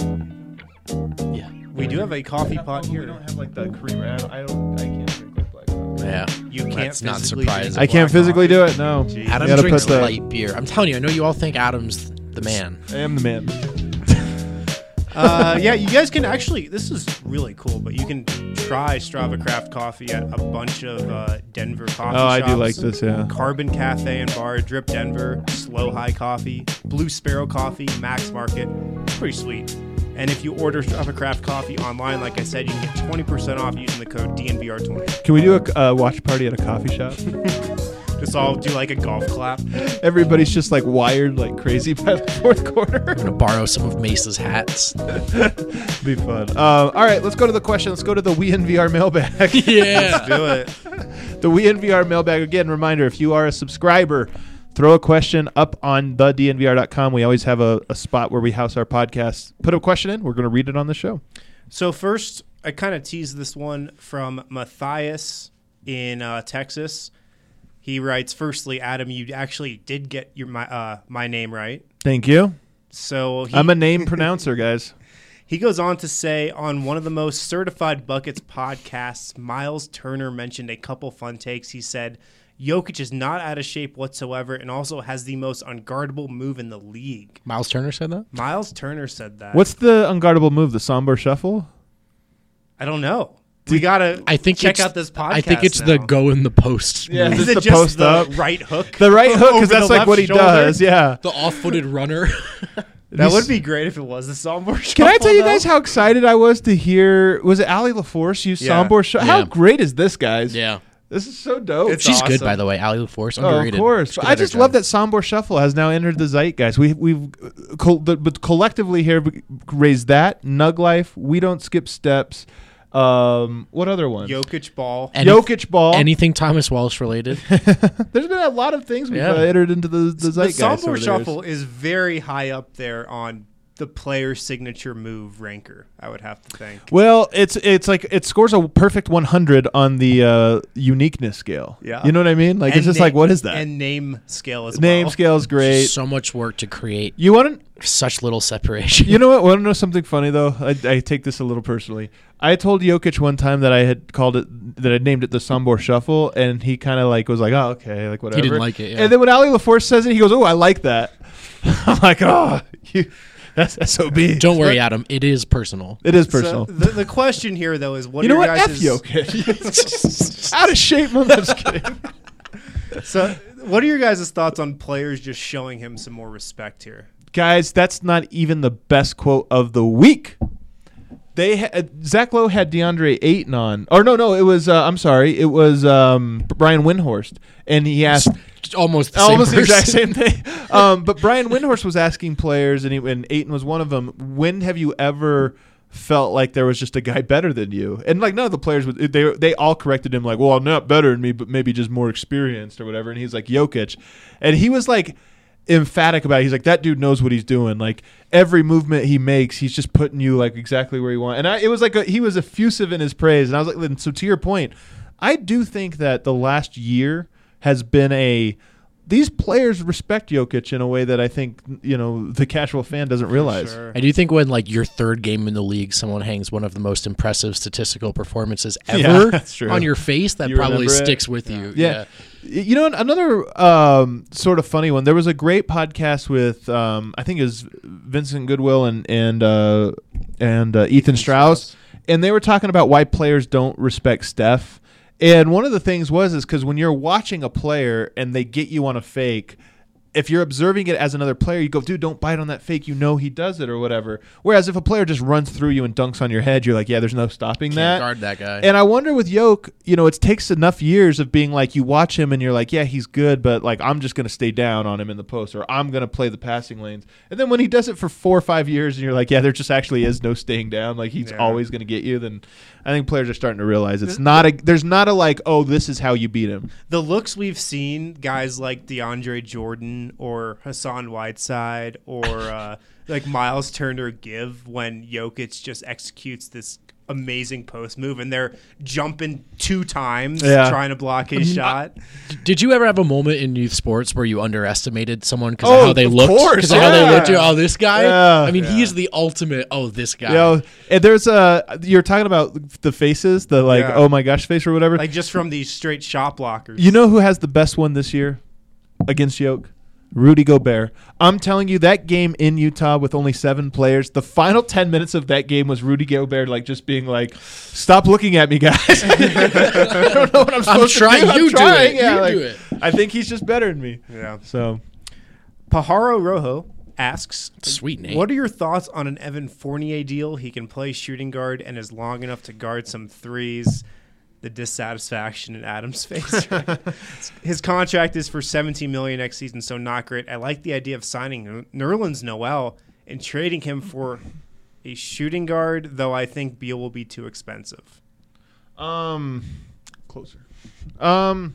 Yeah. We do have a coffee pot We here. don't have like the creamer. I don't. I, don't, I can't drink like black coffee. Yeah. You can't That's not physically surprising. drink I can't black physically coffee. do it. No. Jeez. Adam You gotta drinks put the- light beer. I'm telling you, I know you all think Adam's the man. I am the man. Uh, yeah, you guys can actually. This is really cool, but you can try Strava Craft Coffee at a bunch of uh, Denver coffee Oh, I shops. do like this. Yeah. Carbon Cafe and Bar, Drip Denver, Slow High Coffee, Blue Sparrow Coffee, Max Market. It's pretty sweet. And if you order Strava Craft Coffee online, like I said, you can get twenty percent off using the code D N V R twenty. Can we do a uh, watch party at a coffee shop? Just all do like a golf clap. Everybody's just like wired like crazy by the fourth quarter. I'm gonna borrow some of Mesa's hats. Be fun. Um, all right, let's go to the question. Let's go to the We N V R mailbag. Yeah. Do it. The We N V R mailbag. Again, reminder, if you are a subscriber, throw a question up on the D N V R dot com. We always have a, a spot where we house our podcast. Put a question in. We're going to read it on the show. So first, I kind of teased this one from Matthias in uh, Texas. He writes, firstly, Adam, you actually did get your my uh, my name right. Thank you. So he, I'm a name pronouncer, guys. he goes on to say, on one of the most certified Buckets podcasts, Miles Turner mentioned a couple fun takes. He said, Jokic is not out of shape whatsoever and also has the most unguardable move in the league. Miles Turner said that? Miles Turner said that. What's the unguardable move? The Sombor Shuffle? I don't know. We gotta I think check it's, out this podcast. I think it's now. the go in the post. Yeah. move. Is Just it the just post the up? right hook? The right hook, Over because the that's like left what he shoulder? does. Yeah. The off-footed runner. That would be great if it was the Sombor Shuffle. Can I tell you though. guys how excited I was to hear? Was it Ali LaForce use Yeah. Sombor Shuffle? How Yeah. great is this, guys? yeah. This is so dope. It's She's good, awesome. by the way. Ali LaForce, Oh, underrated. of course. She's good I at her just job. love that Sombor Shuffle has now entered the zeitgeist. We, we've, uh, col- the, but collectively here, we raised that. Nug Life, We Don't Skip Steps. Um, what other one? Jokic ball. Any- Jokic Ball. Anything Thomas Walsh related. There's been a lot of things we've Yeah. uh, entered into the, the The zeitgeist. Sombor over the years. Shuffle is very high up there on the player signature move ranker, I would have to think. Well, it's it's like it scores a perfect one hundred on the uh, uniqueness scale. Yeah. You know what I mean? Like And it's just na- like, what is that? And name scale as Name well. scale is great. So much work to create You want to such little separation. You know what? Want to know something funny though? I, I take this a little personally. I told Jokic one time that I had called it, that I named it the Sombor Shuffle, and he kind of like was like, "Oh, okay, like whatever." He didn't like it. Yeah. And then when Ali LaForce says it, he goes, "Oh, I like that." I'm like, "Oh, you, that's S O B." Don't worry, Adam. It is personal. It is So personal. the, the question here, though, is what you know are what? your F guys' Jokic. Out of shape. I'm just kidding. So, what are your guys' thoughts on players just showing him some more respect here? Guys, that's not even the best quote of the week. They ha- Zach Lowe had DeAndre Ayton on, or no, no, it was uh, I'm sorry, it was um, Brian Windhorst, and he asked It's almost the same almost the exact person. same thing. Um, but Brian Windhorst was asking players, and, he, and Ayton was one of them. When have you ever felt like there was just a guy better than you? And like none of the players would, they they all corrected him like, well, not better than me, but maybe just more experienced or whatever. And he's like Jokic, and he was like emphatic about it. He's like, that dude knows what he's doing. Like every movement he makes, he's just putting you like exactly where you want. And I, it was like a, he was effusive in his praise. And I was like, and so to your point, I do think that the last year has been a these players respect Jokic in a way that I think, you know, the casual fan doesn't realize. Sure. I do think when like your third game in the league, someone hangs one of the most impressive statistical performances Yeah, ever that's true. on your face, that You probably remember it? sticks with you. Yeah. You know, another um, sort of funny one. There was a great podcast with, um, I think it was Vincent Goodwill and and uh, and uh, Ethan Strauss, and they were talking about why players don't respect Steph. And one of the things was is because when you're watching a player and they get you on a fake, if you're observing it as another player, you go, dude, don't bite on that fake. You know he does it or whatever. Whereas if a player just runs through you and dunks on your head, you're like, yeah, there's no stopping Can't that. guard that guy. And I wonder with Yoke, you know, it takes enough years of being like, you watch him and you're like, yeah, he's good, but like, I'm just going to stay down on him in the post, or I'm going to play the passing lanes. And then when he does it for four or five years and you're like, yeah, there just actually is no staying down, like he's Yeah. always going to get you, then I think players are starting to realize it's not a, there's not a like, oh, this is how you beat him. The looks we've seen, guys like DeAndre Jordan or Hassan Whiteside or uh, like Miles Turner give when Jokic just executes this amazing post move and they're jumping two times Yeah. trying to block his shot. Did you ever have a moment in youth sports where you underestimated someone because Oh, of how they of looked? course, Because of how they yeah. looked. Oh, this guy? Yeah. I mean, he is the ultimate, oh, this guy. You know, and there's a, you're talking about the faces, the like, Yeah. oh my gosh face or whatever. Like just from these straight shot blockers. You know who has the best one this year against Yoke? Rudy Gobert. I'm telling you, that game in Utah with only seven players, the final ten minutes of that game was Rudy Gobert like just being like, stop looking at me, guys. I don't know what I'm supposed trying, to do. I'm you do trying. it, Yeah, you like, do it. I think he's just better than me. Yeah. So Pajaro Rojo asks, Sweet name. what are your thoughts on an Evan Fournier deal? He can play shooting guard and is long enough to guard some threes. The dissatisfaction in Adam's face. His contract is for seventeen million dollars next season, so not great. I like the idea of signing Nerlens Noel and trading him for a shooting guard, though I think Beal will be too expensive. Um, closer. Um,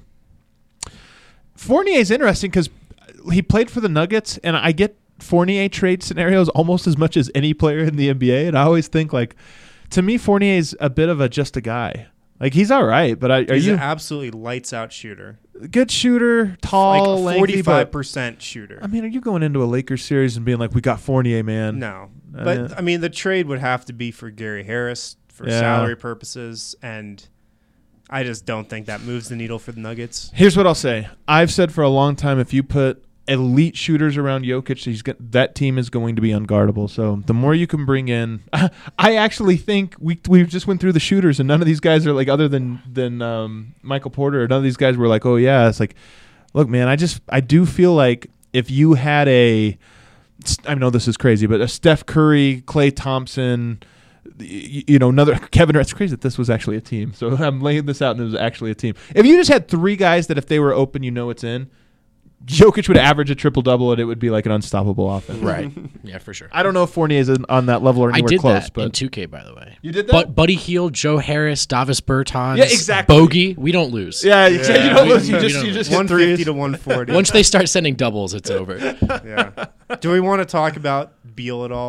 Fournier's interesting because he played for the Nuggets, and I get Fournier trade scenarios almost as much as any player in the N B A, and I always think like, to me, Fournier's a bit of a just a guy. Like he's all right, but I, are He's you an absolutely lights out shooter, good shooter, tall, like lengthy, forty-five but percent shooter. I mean, are you going into a Lakers series and being like, we got Fournier, man? No, Uh, but I mean, the trade would have to be for Gary Harris for Yeah. salary purposes, and I just don't think that moves the needle for the Nuggets. Here's what I'll say. I've said for a long time, if you put elite shooters around Jokic, he's got, that team is going to be unguardable. So the more you can bring in, I actually think we we just went through the shooters, and none of these guys are like, other than than um, Michael Porter, none of these guys were like, oh yeah. It's like, look, man, I just I do feel like if you had a, I know this is crazy, but a Steph Curry, Klay Thompson, you, you know, another Kevin. It's crazy that this was actually a team. So I'm laying this out, and it was actually a team. If you just had three guys that if they were open, you know it's in. Jokic would average a triple-double, and it would be like an unstoppable offense. Right. Yeah, for sure. I don't know if Fournier is in, on that level or I anywhere did close. that but in two K, by the way. You did that? But Buddy Hield, Joe Harris, Davis Bertans, Yeah, exactly. Bogey, we don't lose. yeah, you, Yeah. you don't We- lose. You we just don't you lose. just hit one fifty threes. to one forty. Once they start sending doubles, it's over. Yeah. Do we want to talk about Beal at all?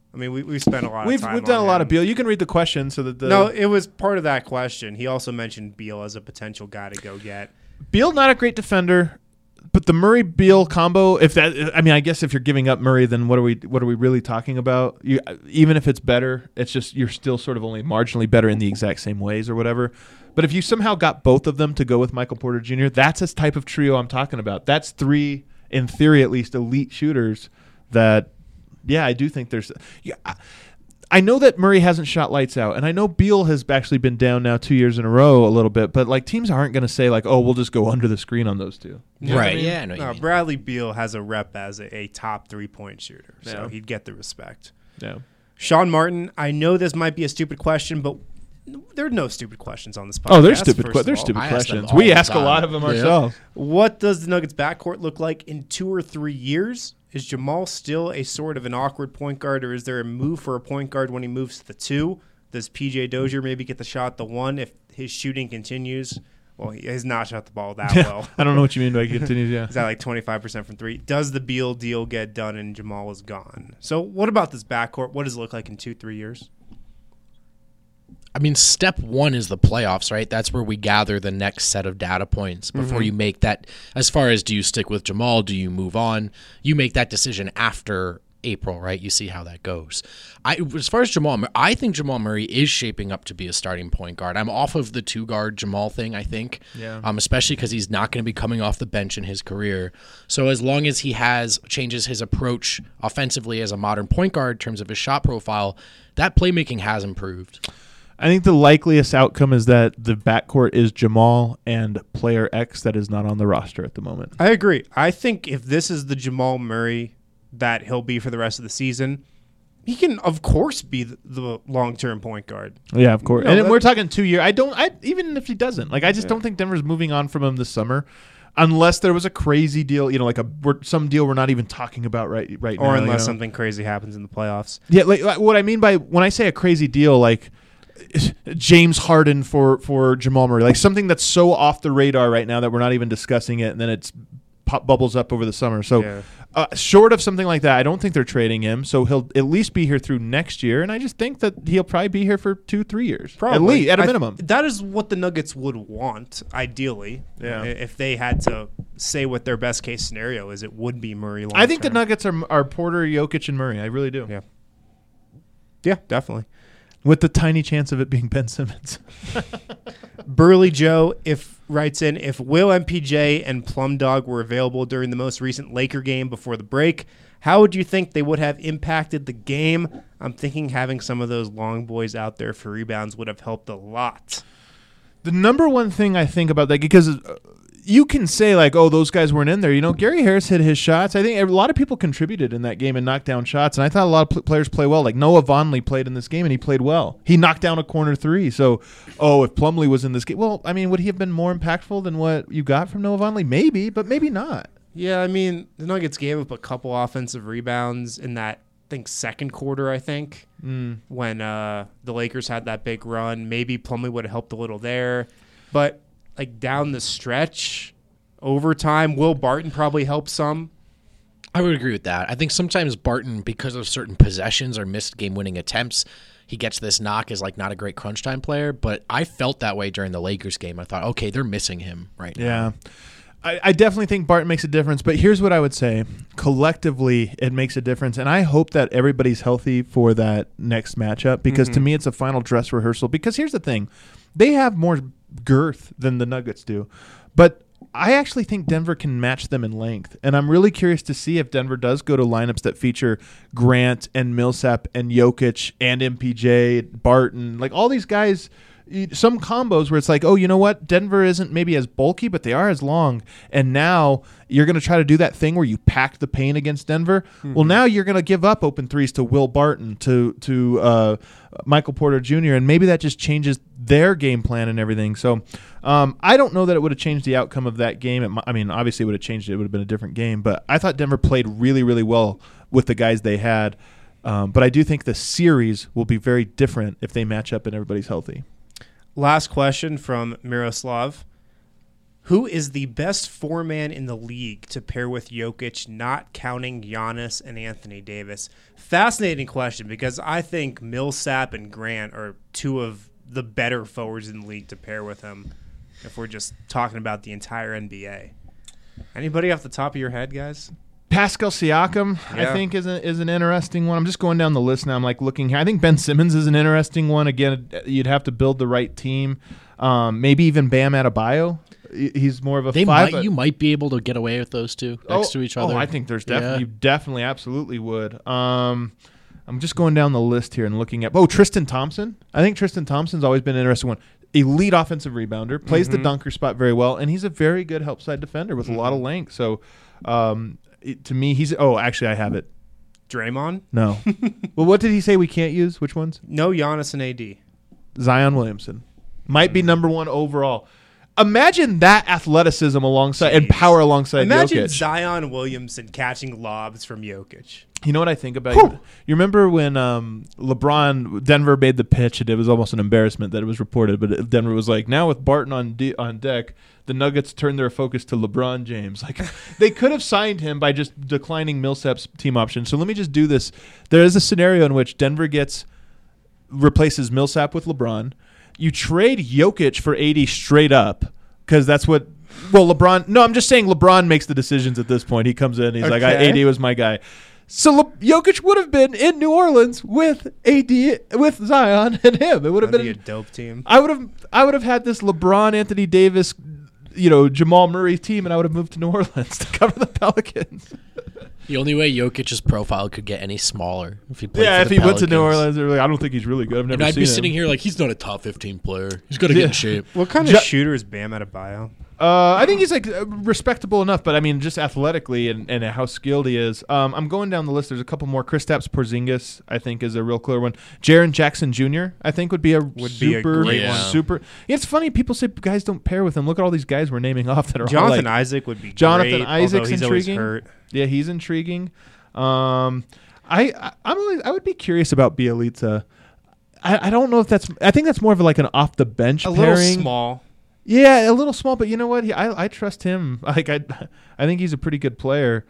I mean, we we spent a lot. We've of time we've done on a lot him. of Beal. You can read the question so that the No, it was part of that question. He also mentioned Beal as a potential guy to go get. Beal not a great defender. But the Murray Beal combo, if that, I mean, I guess if you're giving up Murray, then what are we, what are we really talking about? You, even if it's better, it's just you're still sort of only marginally better in the exact same ways or whatever. But if you somehow got both of them to go with Michael Porter Junior, that's a type of trio I'm talking about. That's three, in theory at least, elite shooters. That, yeah, I do think there's. Yeah, I, I know that Murray hasn't shot lights out, and I know Beal has actually been down now two years in a row a little bit, but like teams aren't going to say like, oh, we'll just go under the screen on those two. You know what Right, I mean? yeah, I know what you No, mean. Bradley Beal has a rep as a, a top three-point shooter, so Yeah. he'd get the respect. Yeah. Sean Martin, I know this might be a stupid question, but there are no stupid questions on this podcast. Oh, there's stupid. first Que- of there's all. stupid I ask them questions. all We the ask a time. lot of them Yeah. ourselves. What does the Nuggets backcourt look like in two or three years? Is Jamal still a sort of an awkward point guard, or is there a move for a point guard when he moves to the two? Does P J Dozier maybe get the shot the one if his shooting continues? Well, he has not shot the ball that well. I don't know what you mean by continues. Yeah. Is that like twenty-five percent from three? Does the Beal deal get done and Jamal is gone? So what about this backcourt? What does it look like in two, three years? I mean, step one is the playoffs, right? That's where we gather the next set of data points before Mm-hmm. you make that. As far as do you stick with Jamal? Do you move on? You make that decision after April, right? You see how that goes. I, as far as Jamal, Mur- I think Jamal Murray is shaping up to be a starting point guard. I'm off of the two guard Jamal thing, I think, Yeah. um, especially because he's not going to be coming off the bench in his career. So as long as he has changes his approach offensively as a modern point guard in terms of his shot profile, that playmaking has improved. I think the likeliest outcome is that the backcourt is Jamal and player X that is not on the roster at the moment. I agree. I think if this is the Jamal Murray that he'll be for the rest of the season, he can, of course, be the, the long-term point guard. Yeah, of course. No, and that- we're talking two year. I don't. I even if he doesn't, like, I just don't think Denver's moving on from him this summer, unless there was a crazy deal. You know, like a we're, some deal we're not even talking about right right now. Or you unless know? something crazy happens in the playoffs. Yeah, like, like what I mean by when I say a crazy deal, like James Harden for for Jamal Murray, like something that's so off the radar right now that we're not even discussing it, and then it's pop bubbles up over the summer. So, Yeah. uh, short of something like that, I don't think they're trading him. So he'll at least be here through next year, and I just think that he'll probably be here for two, three years, at least, at a I- minimum. that is what the Nuggets would want, ideally. Yeah. I- If they had to say what their best case scenario is, it would be Murray long I think the term. Nuggets are are Porter, Jokic, and Murray. I really do. Yeah. Yeah, definitely. With the tiny chance of it being Ben Simmons. Burley Joe if writes in, if Will M P J and Plum Dog were available during the most recent Laker game before the break, how would you think they would have impacted the game? I'm thinking having some of those long boys out there for rebounds would have helped a lot. The number one thing I think about that, because uh, you can say like, oh, those guys weren't in there. You know, Gary Harris hit his shots. I think a lot of people contributed in that game and knocked down shots. And I thought a lot of pl- players play well. Like Noah Vonleh played in this game and he played well. He knocked down a corner three. So, oh, if Plumlee was in this game, well, I mean, would he have been more impactful than what you got from Noah Vonleh? Maybe, but maybe not. Yeah, I mean, the Nuggets gave up a couple offensive rebounds in that, I think, second quarter, I think, Mm. when uh, the Lakers had that big run. Maybe Plumlee would have helped a little there. But, like, down the stretch, overtime, Will Barton probably helped some. I would agree with that. I think sometimes Barton, because of certain possessions or missed game-winning attempts, he gets this knock as like not a great crunch time player. But I felt that way during the Lakers game. I thought, okay, they're missing him right now. Yeah. I, I definitely think Barton makes a difference, but here's what I would say. Collectively, it makes a difference, and I hope that everybody's healthy for that next matchup because to me it's a final dress rehearsal. Because here's the thing. They have more girth than the Nuggets do, but I actually think Denver can match them in length, and I'm really curious to see if Denver does go to lineups that feature Grant and Millsap and Jokic and M P J, Barton, like all these guys – some combos where it's like, oh, you know what? Denver isn't maybe as bulky, but they are as long. And now you're going to try to do that thing where you pack the paint against Denver. Mm-hmm. Well, now you're going to give up open threes to Will Barton, to to uh, Michael Porter Junior, and maybe that just changes their game plan and everything. So um, I don't know that it would have changed the outcome of that game. It, I mean, obviously it would have changed it. It would have been a different game. But I thought Denver played really, really well with the guys they had. Um, but I do think the series will be very different if they match up and everybody's healthy. Last question from Miroslav. Who is the best four-man in the league to pair with Jokic, not counting Giannis and Anthony Davis? Fascinating question, because I think Millsap and Grant are two of the better forwards in the league to pair with him if we're just talking about the entire N B A. Anybody off the top of your head, guys? Pascal Siakam, Yeah. I think, is a, is an interesting one. I'm just going down the list now. I'm like looking here. I think Ben Simmons is an interesting one. Again, you'd have to build the right team. Um, maybe even Bam Adebayo. He's more of a They five. might, you might be able to get away with those two next oh, to each other. Oh, I think there's definitely, Yeah. you definitely, absolutely would. Um, I'm just going down the list here and looking at. Oh, Tristan Thompson. I think Tristan Thompson's always been an interesting one. Elite offensive rebounder, plays Mm-hmm. the dunker spot very well, and he's a very good help side defender with Mm-hmm. a lot of length. So, um, it, to me, he's. Oh, actually, I have it. Draymond? No. Well, what did he say we can't use? Which ones? No Giannis and A D. Zion Williamson might be number one overall. Imagine that athleticism alongside and Jeez. power alongside Imagine Jokic. Zion Williamson catching lobs from Jokic. You know what I think about you? You remember when um, LeBron, Denver made the pitch, and it was almost an embarrassment that it was reported, but Denver was like, now with Barton on de- on deck, the Nuggets turned their focus to LeBron James. Like, they could have signed him by just declining Millsap's team option. So let me just do this. There is a scenario in which Denver gets replaces Millsap with LeBron. You trade Jokic for A D straight up because that's what. Well, LeBron. No, I'm just saying LeBron makes the decisions at this point. He comes in. He's like, I, Okay. A D was my guy. So Le- Jokic would have been in New Orleans with A D, with Zion and him. It would have That'd been be a dope team. I would have. I would have had this LeBron, Anthony Davis, you know, Jamal Murray team, and I would have moved to New Orleans to cover the Pelicans. The only way Jokic's profile could get any smaller if he played Yeah, for if the he went to New Pelicans. Orleans, they're like, I don't think he's really good. I've never And I'd seen be him. sitting here like, he's not a top fifteen player. He's got to get Yeah. in shape. What kind Ju- of shooter is Bam Adebayo? Uh, I think he's like uh, respectable enough, but I mean, just athletically and, and how skilled he is. Um, I'm going down the list. There's a couple more. Kristaps Porzingis, I think, is a real clear one. Jaren Jackson Junior, I think, would be a Would be a super, great one. super. Yeah, it's funny. People say guys don't pair with him. Look at all these guys we're naming off that are all Jonathan like, Isaac would be Jonathan great, Isaac's although he's always intriguing. hurt. Yeah, he's intriguing. Um, I, I I'm always, I would be curious about Bielitsa. I, I don't know if that's. I think that's more of like an off the bench A pairing. little small. Yeah, a little small, but you know what? He, I I trust him. Like I, I think he's a pretty good player.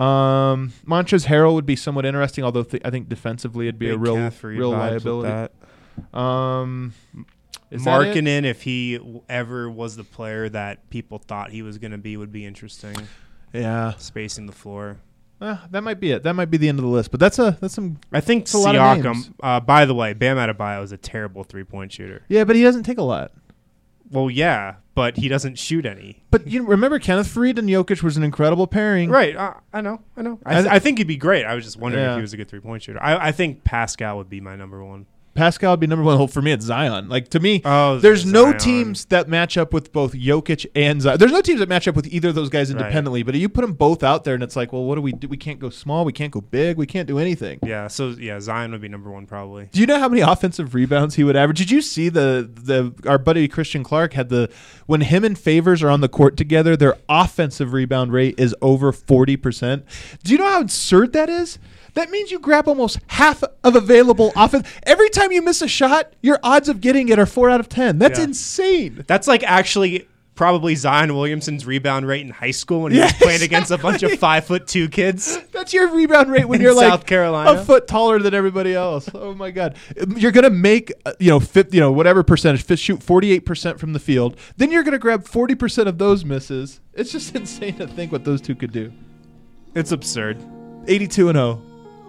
Um, Montrezl Harrell would be somewhat interesting, although th- I think defensively it'd be a Big real Caffrey real vibes with liability. that. Um, is that it? Markkanen, if he w- ever was the player that people thought he was going to be, would be interesting. Yeah, Spacing the floor. uh, that might be it. That might be the end of the list. But that's a that's some. I think It's a lot of names. Siakam, uh, by the way, Bam Adebayo is a terrible three-point shooter. Yeah, but he doesn't take a lot. Well, yeah, but he doesn't shoot any. But you remember Kenneth Faried and Jokic was an incredible pairing. Right, uh, I know, I know. I, I th- th- I think he'd be great. I was just wondering Yeah. if he was a good three-point shooter. I, I think Pascal would be my number one. Pascal would be number one. Well, for me, it's Zion. Like to me, Oh, there's no Zion. teams that match up with both Jokic and Zion. There's no teams that match up with either of those guys Right. independently. But you put them both out there, and it's like, well, what do we do? We can't go small. We can't go big. We can't do anything. Yeah, so yeah, Zion would be number one probably. Do you know how many offensive rebounds he would average? Did you see the the our buddy Christian Clark had the when him and Favors are on the court together, their offensive rebound rate is over forty percent. Do you know how absurd that is? That means you grab almost half of available offense. Every time you miss a shot, your odds of getting it are four out of ten. That's Yeah. insane. That's like actually probably Zion Williamson's rebound rate in high school when he Yeah, was playing against a bunch of exactly. five foot two kids. That's your rebound rate when In you're like South Carolina. a foot taller than everybody else. Oh my god! You're gonna make uh, you know fifty, you know whatever percentage, fit, shoot forty-eight percent from the field. Then you're gonna grab forty percent of those misses. It's just insane to think what those two could do. It's absurd. eighty-two and oh.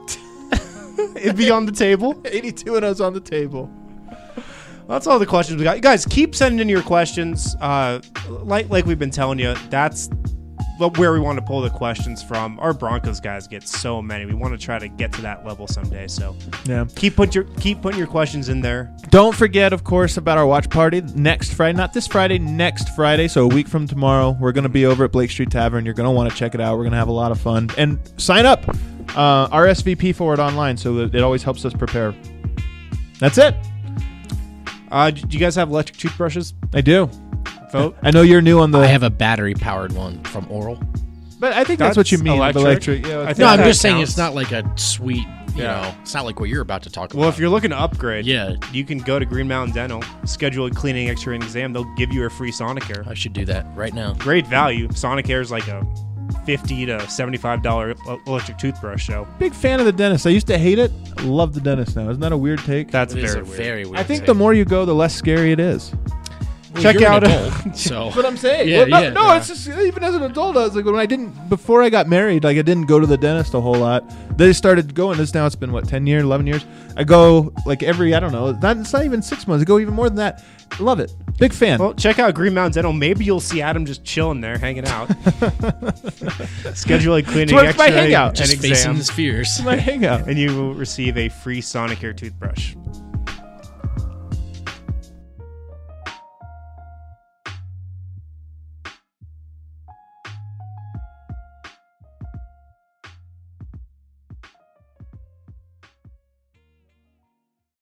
It'd be on the table. eighty-two and oh's on the table. Well, that's all the questions we got. You guys, keep sending in your questions. Uh, like like we've been telling you, that's what- where we want to pull the questions from. Our Broncos guys get so many. We want to try to get to that level someday. So Yeah. keep put your keep putting your questions in there. Don't forget, of course, about our watch party next Friday. Not this Friday, next Friday. So a week from tomorrow, we're going to be over at Blake Street Tavern. You're going to want to check it out. We're going to have a lot of fun. And sign up. Uh, R S V P for it online, so that it always helps us prepare. That's it. Uh, do you guys have electric toothbrushes? I do. Vote. I know you're new on the. I have a battery powered one from Oral. But I think that's, what you That's mean. electric. Electric. Yeah, I it's think No, I'm that just saying counts. it's not like a sweet, you Yeah. know, it's not like what you're about to talk Well, about. if you're looking to upgrade, Yeah. you can go to Green Mountain Dental, schedule a cleaning, X-ray, and exam. They'll give you a free Sonicare. I should do that right now. Great value. Sonicare is like a fifty to seventy-five dollar electric toothbrush. So Big fan of the dentist. I used to hate it. Love the dentist now. Isn't that a weird take? that's It is very a weird. very weird. I think take. the more you go, the less scary it is. Well, check you're an out- adult, so But I'm saying, Yeah, well, no, yeah, no yeah. it's just even as an adult, I was like when I didn't before I got married, like I didn't go to the dentist a whole lot. They started going. This now it's been what ten years, eleven years. I go like every I don't know. Not, it's not even six months. I go even more than that. Love it. Big fan. Well, check out Green Mountain Dental. Maybe you'll see Adam just chilling there, hanging out. Schedule a cleaning, where it's my X-ray, hangout. and just facing exam, his fears. my hangout. and you will receive a free Sonicare toothbrush.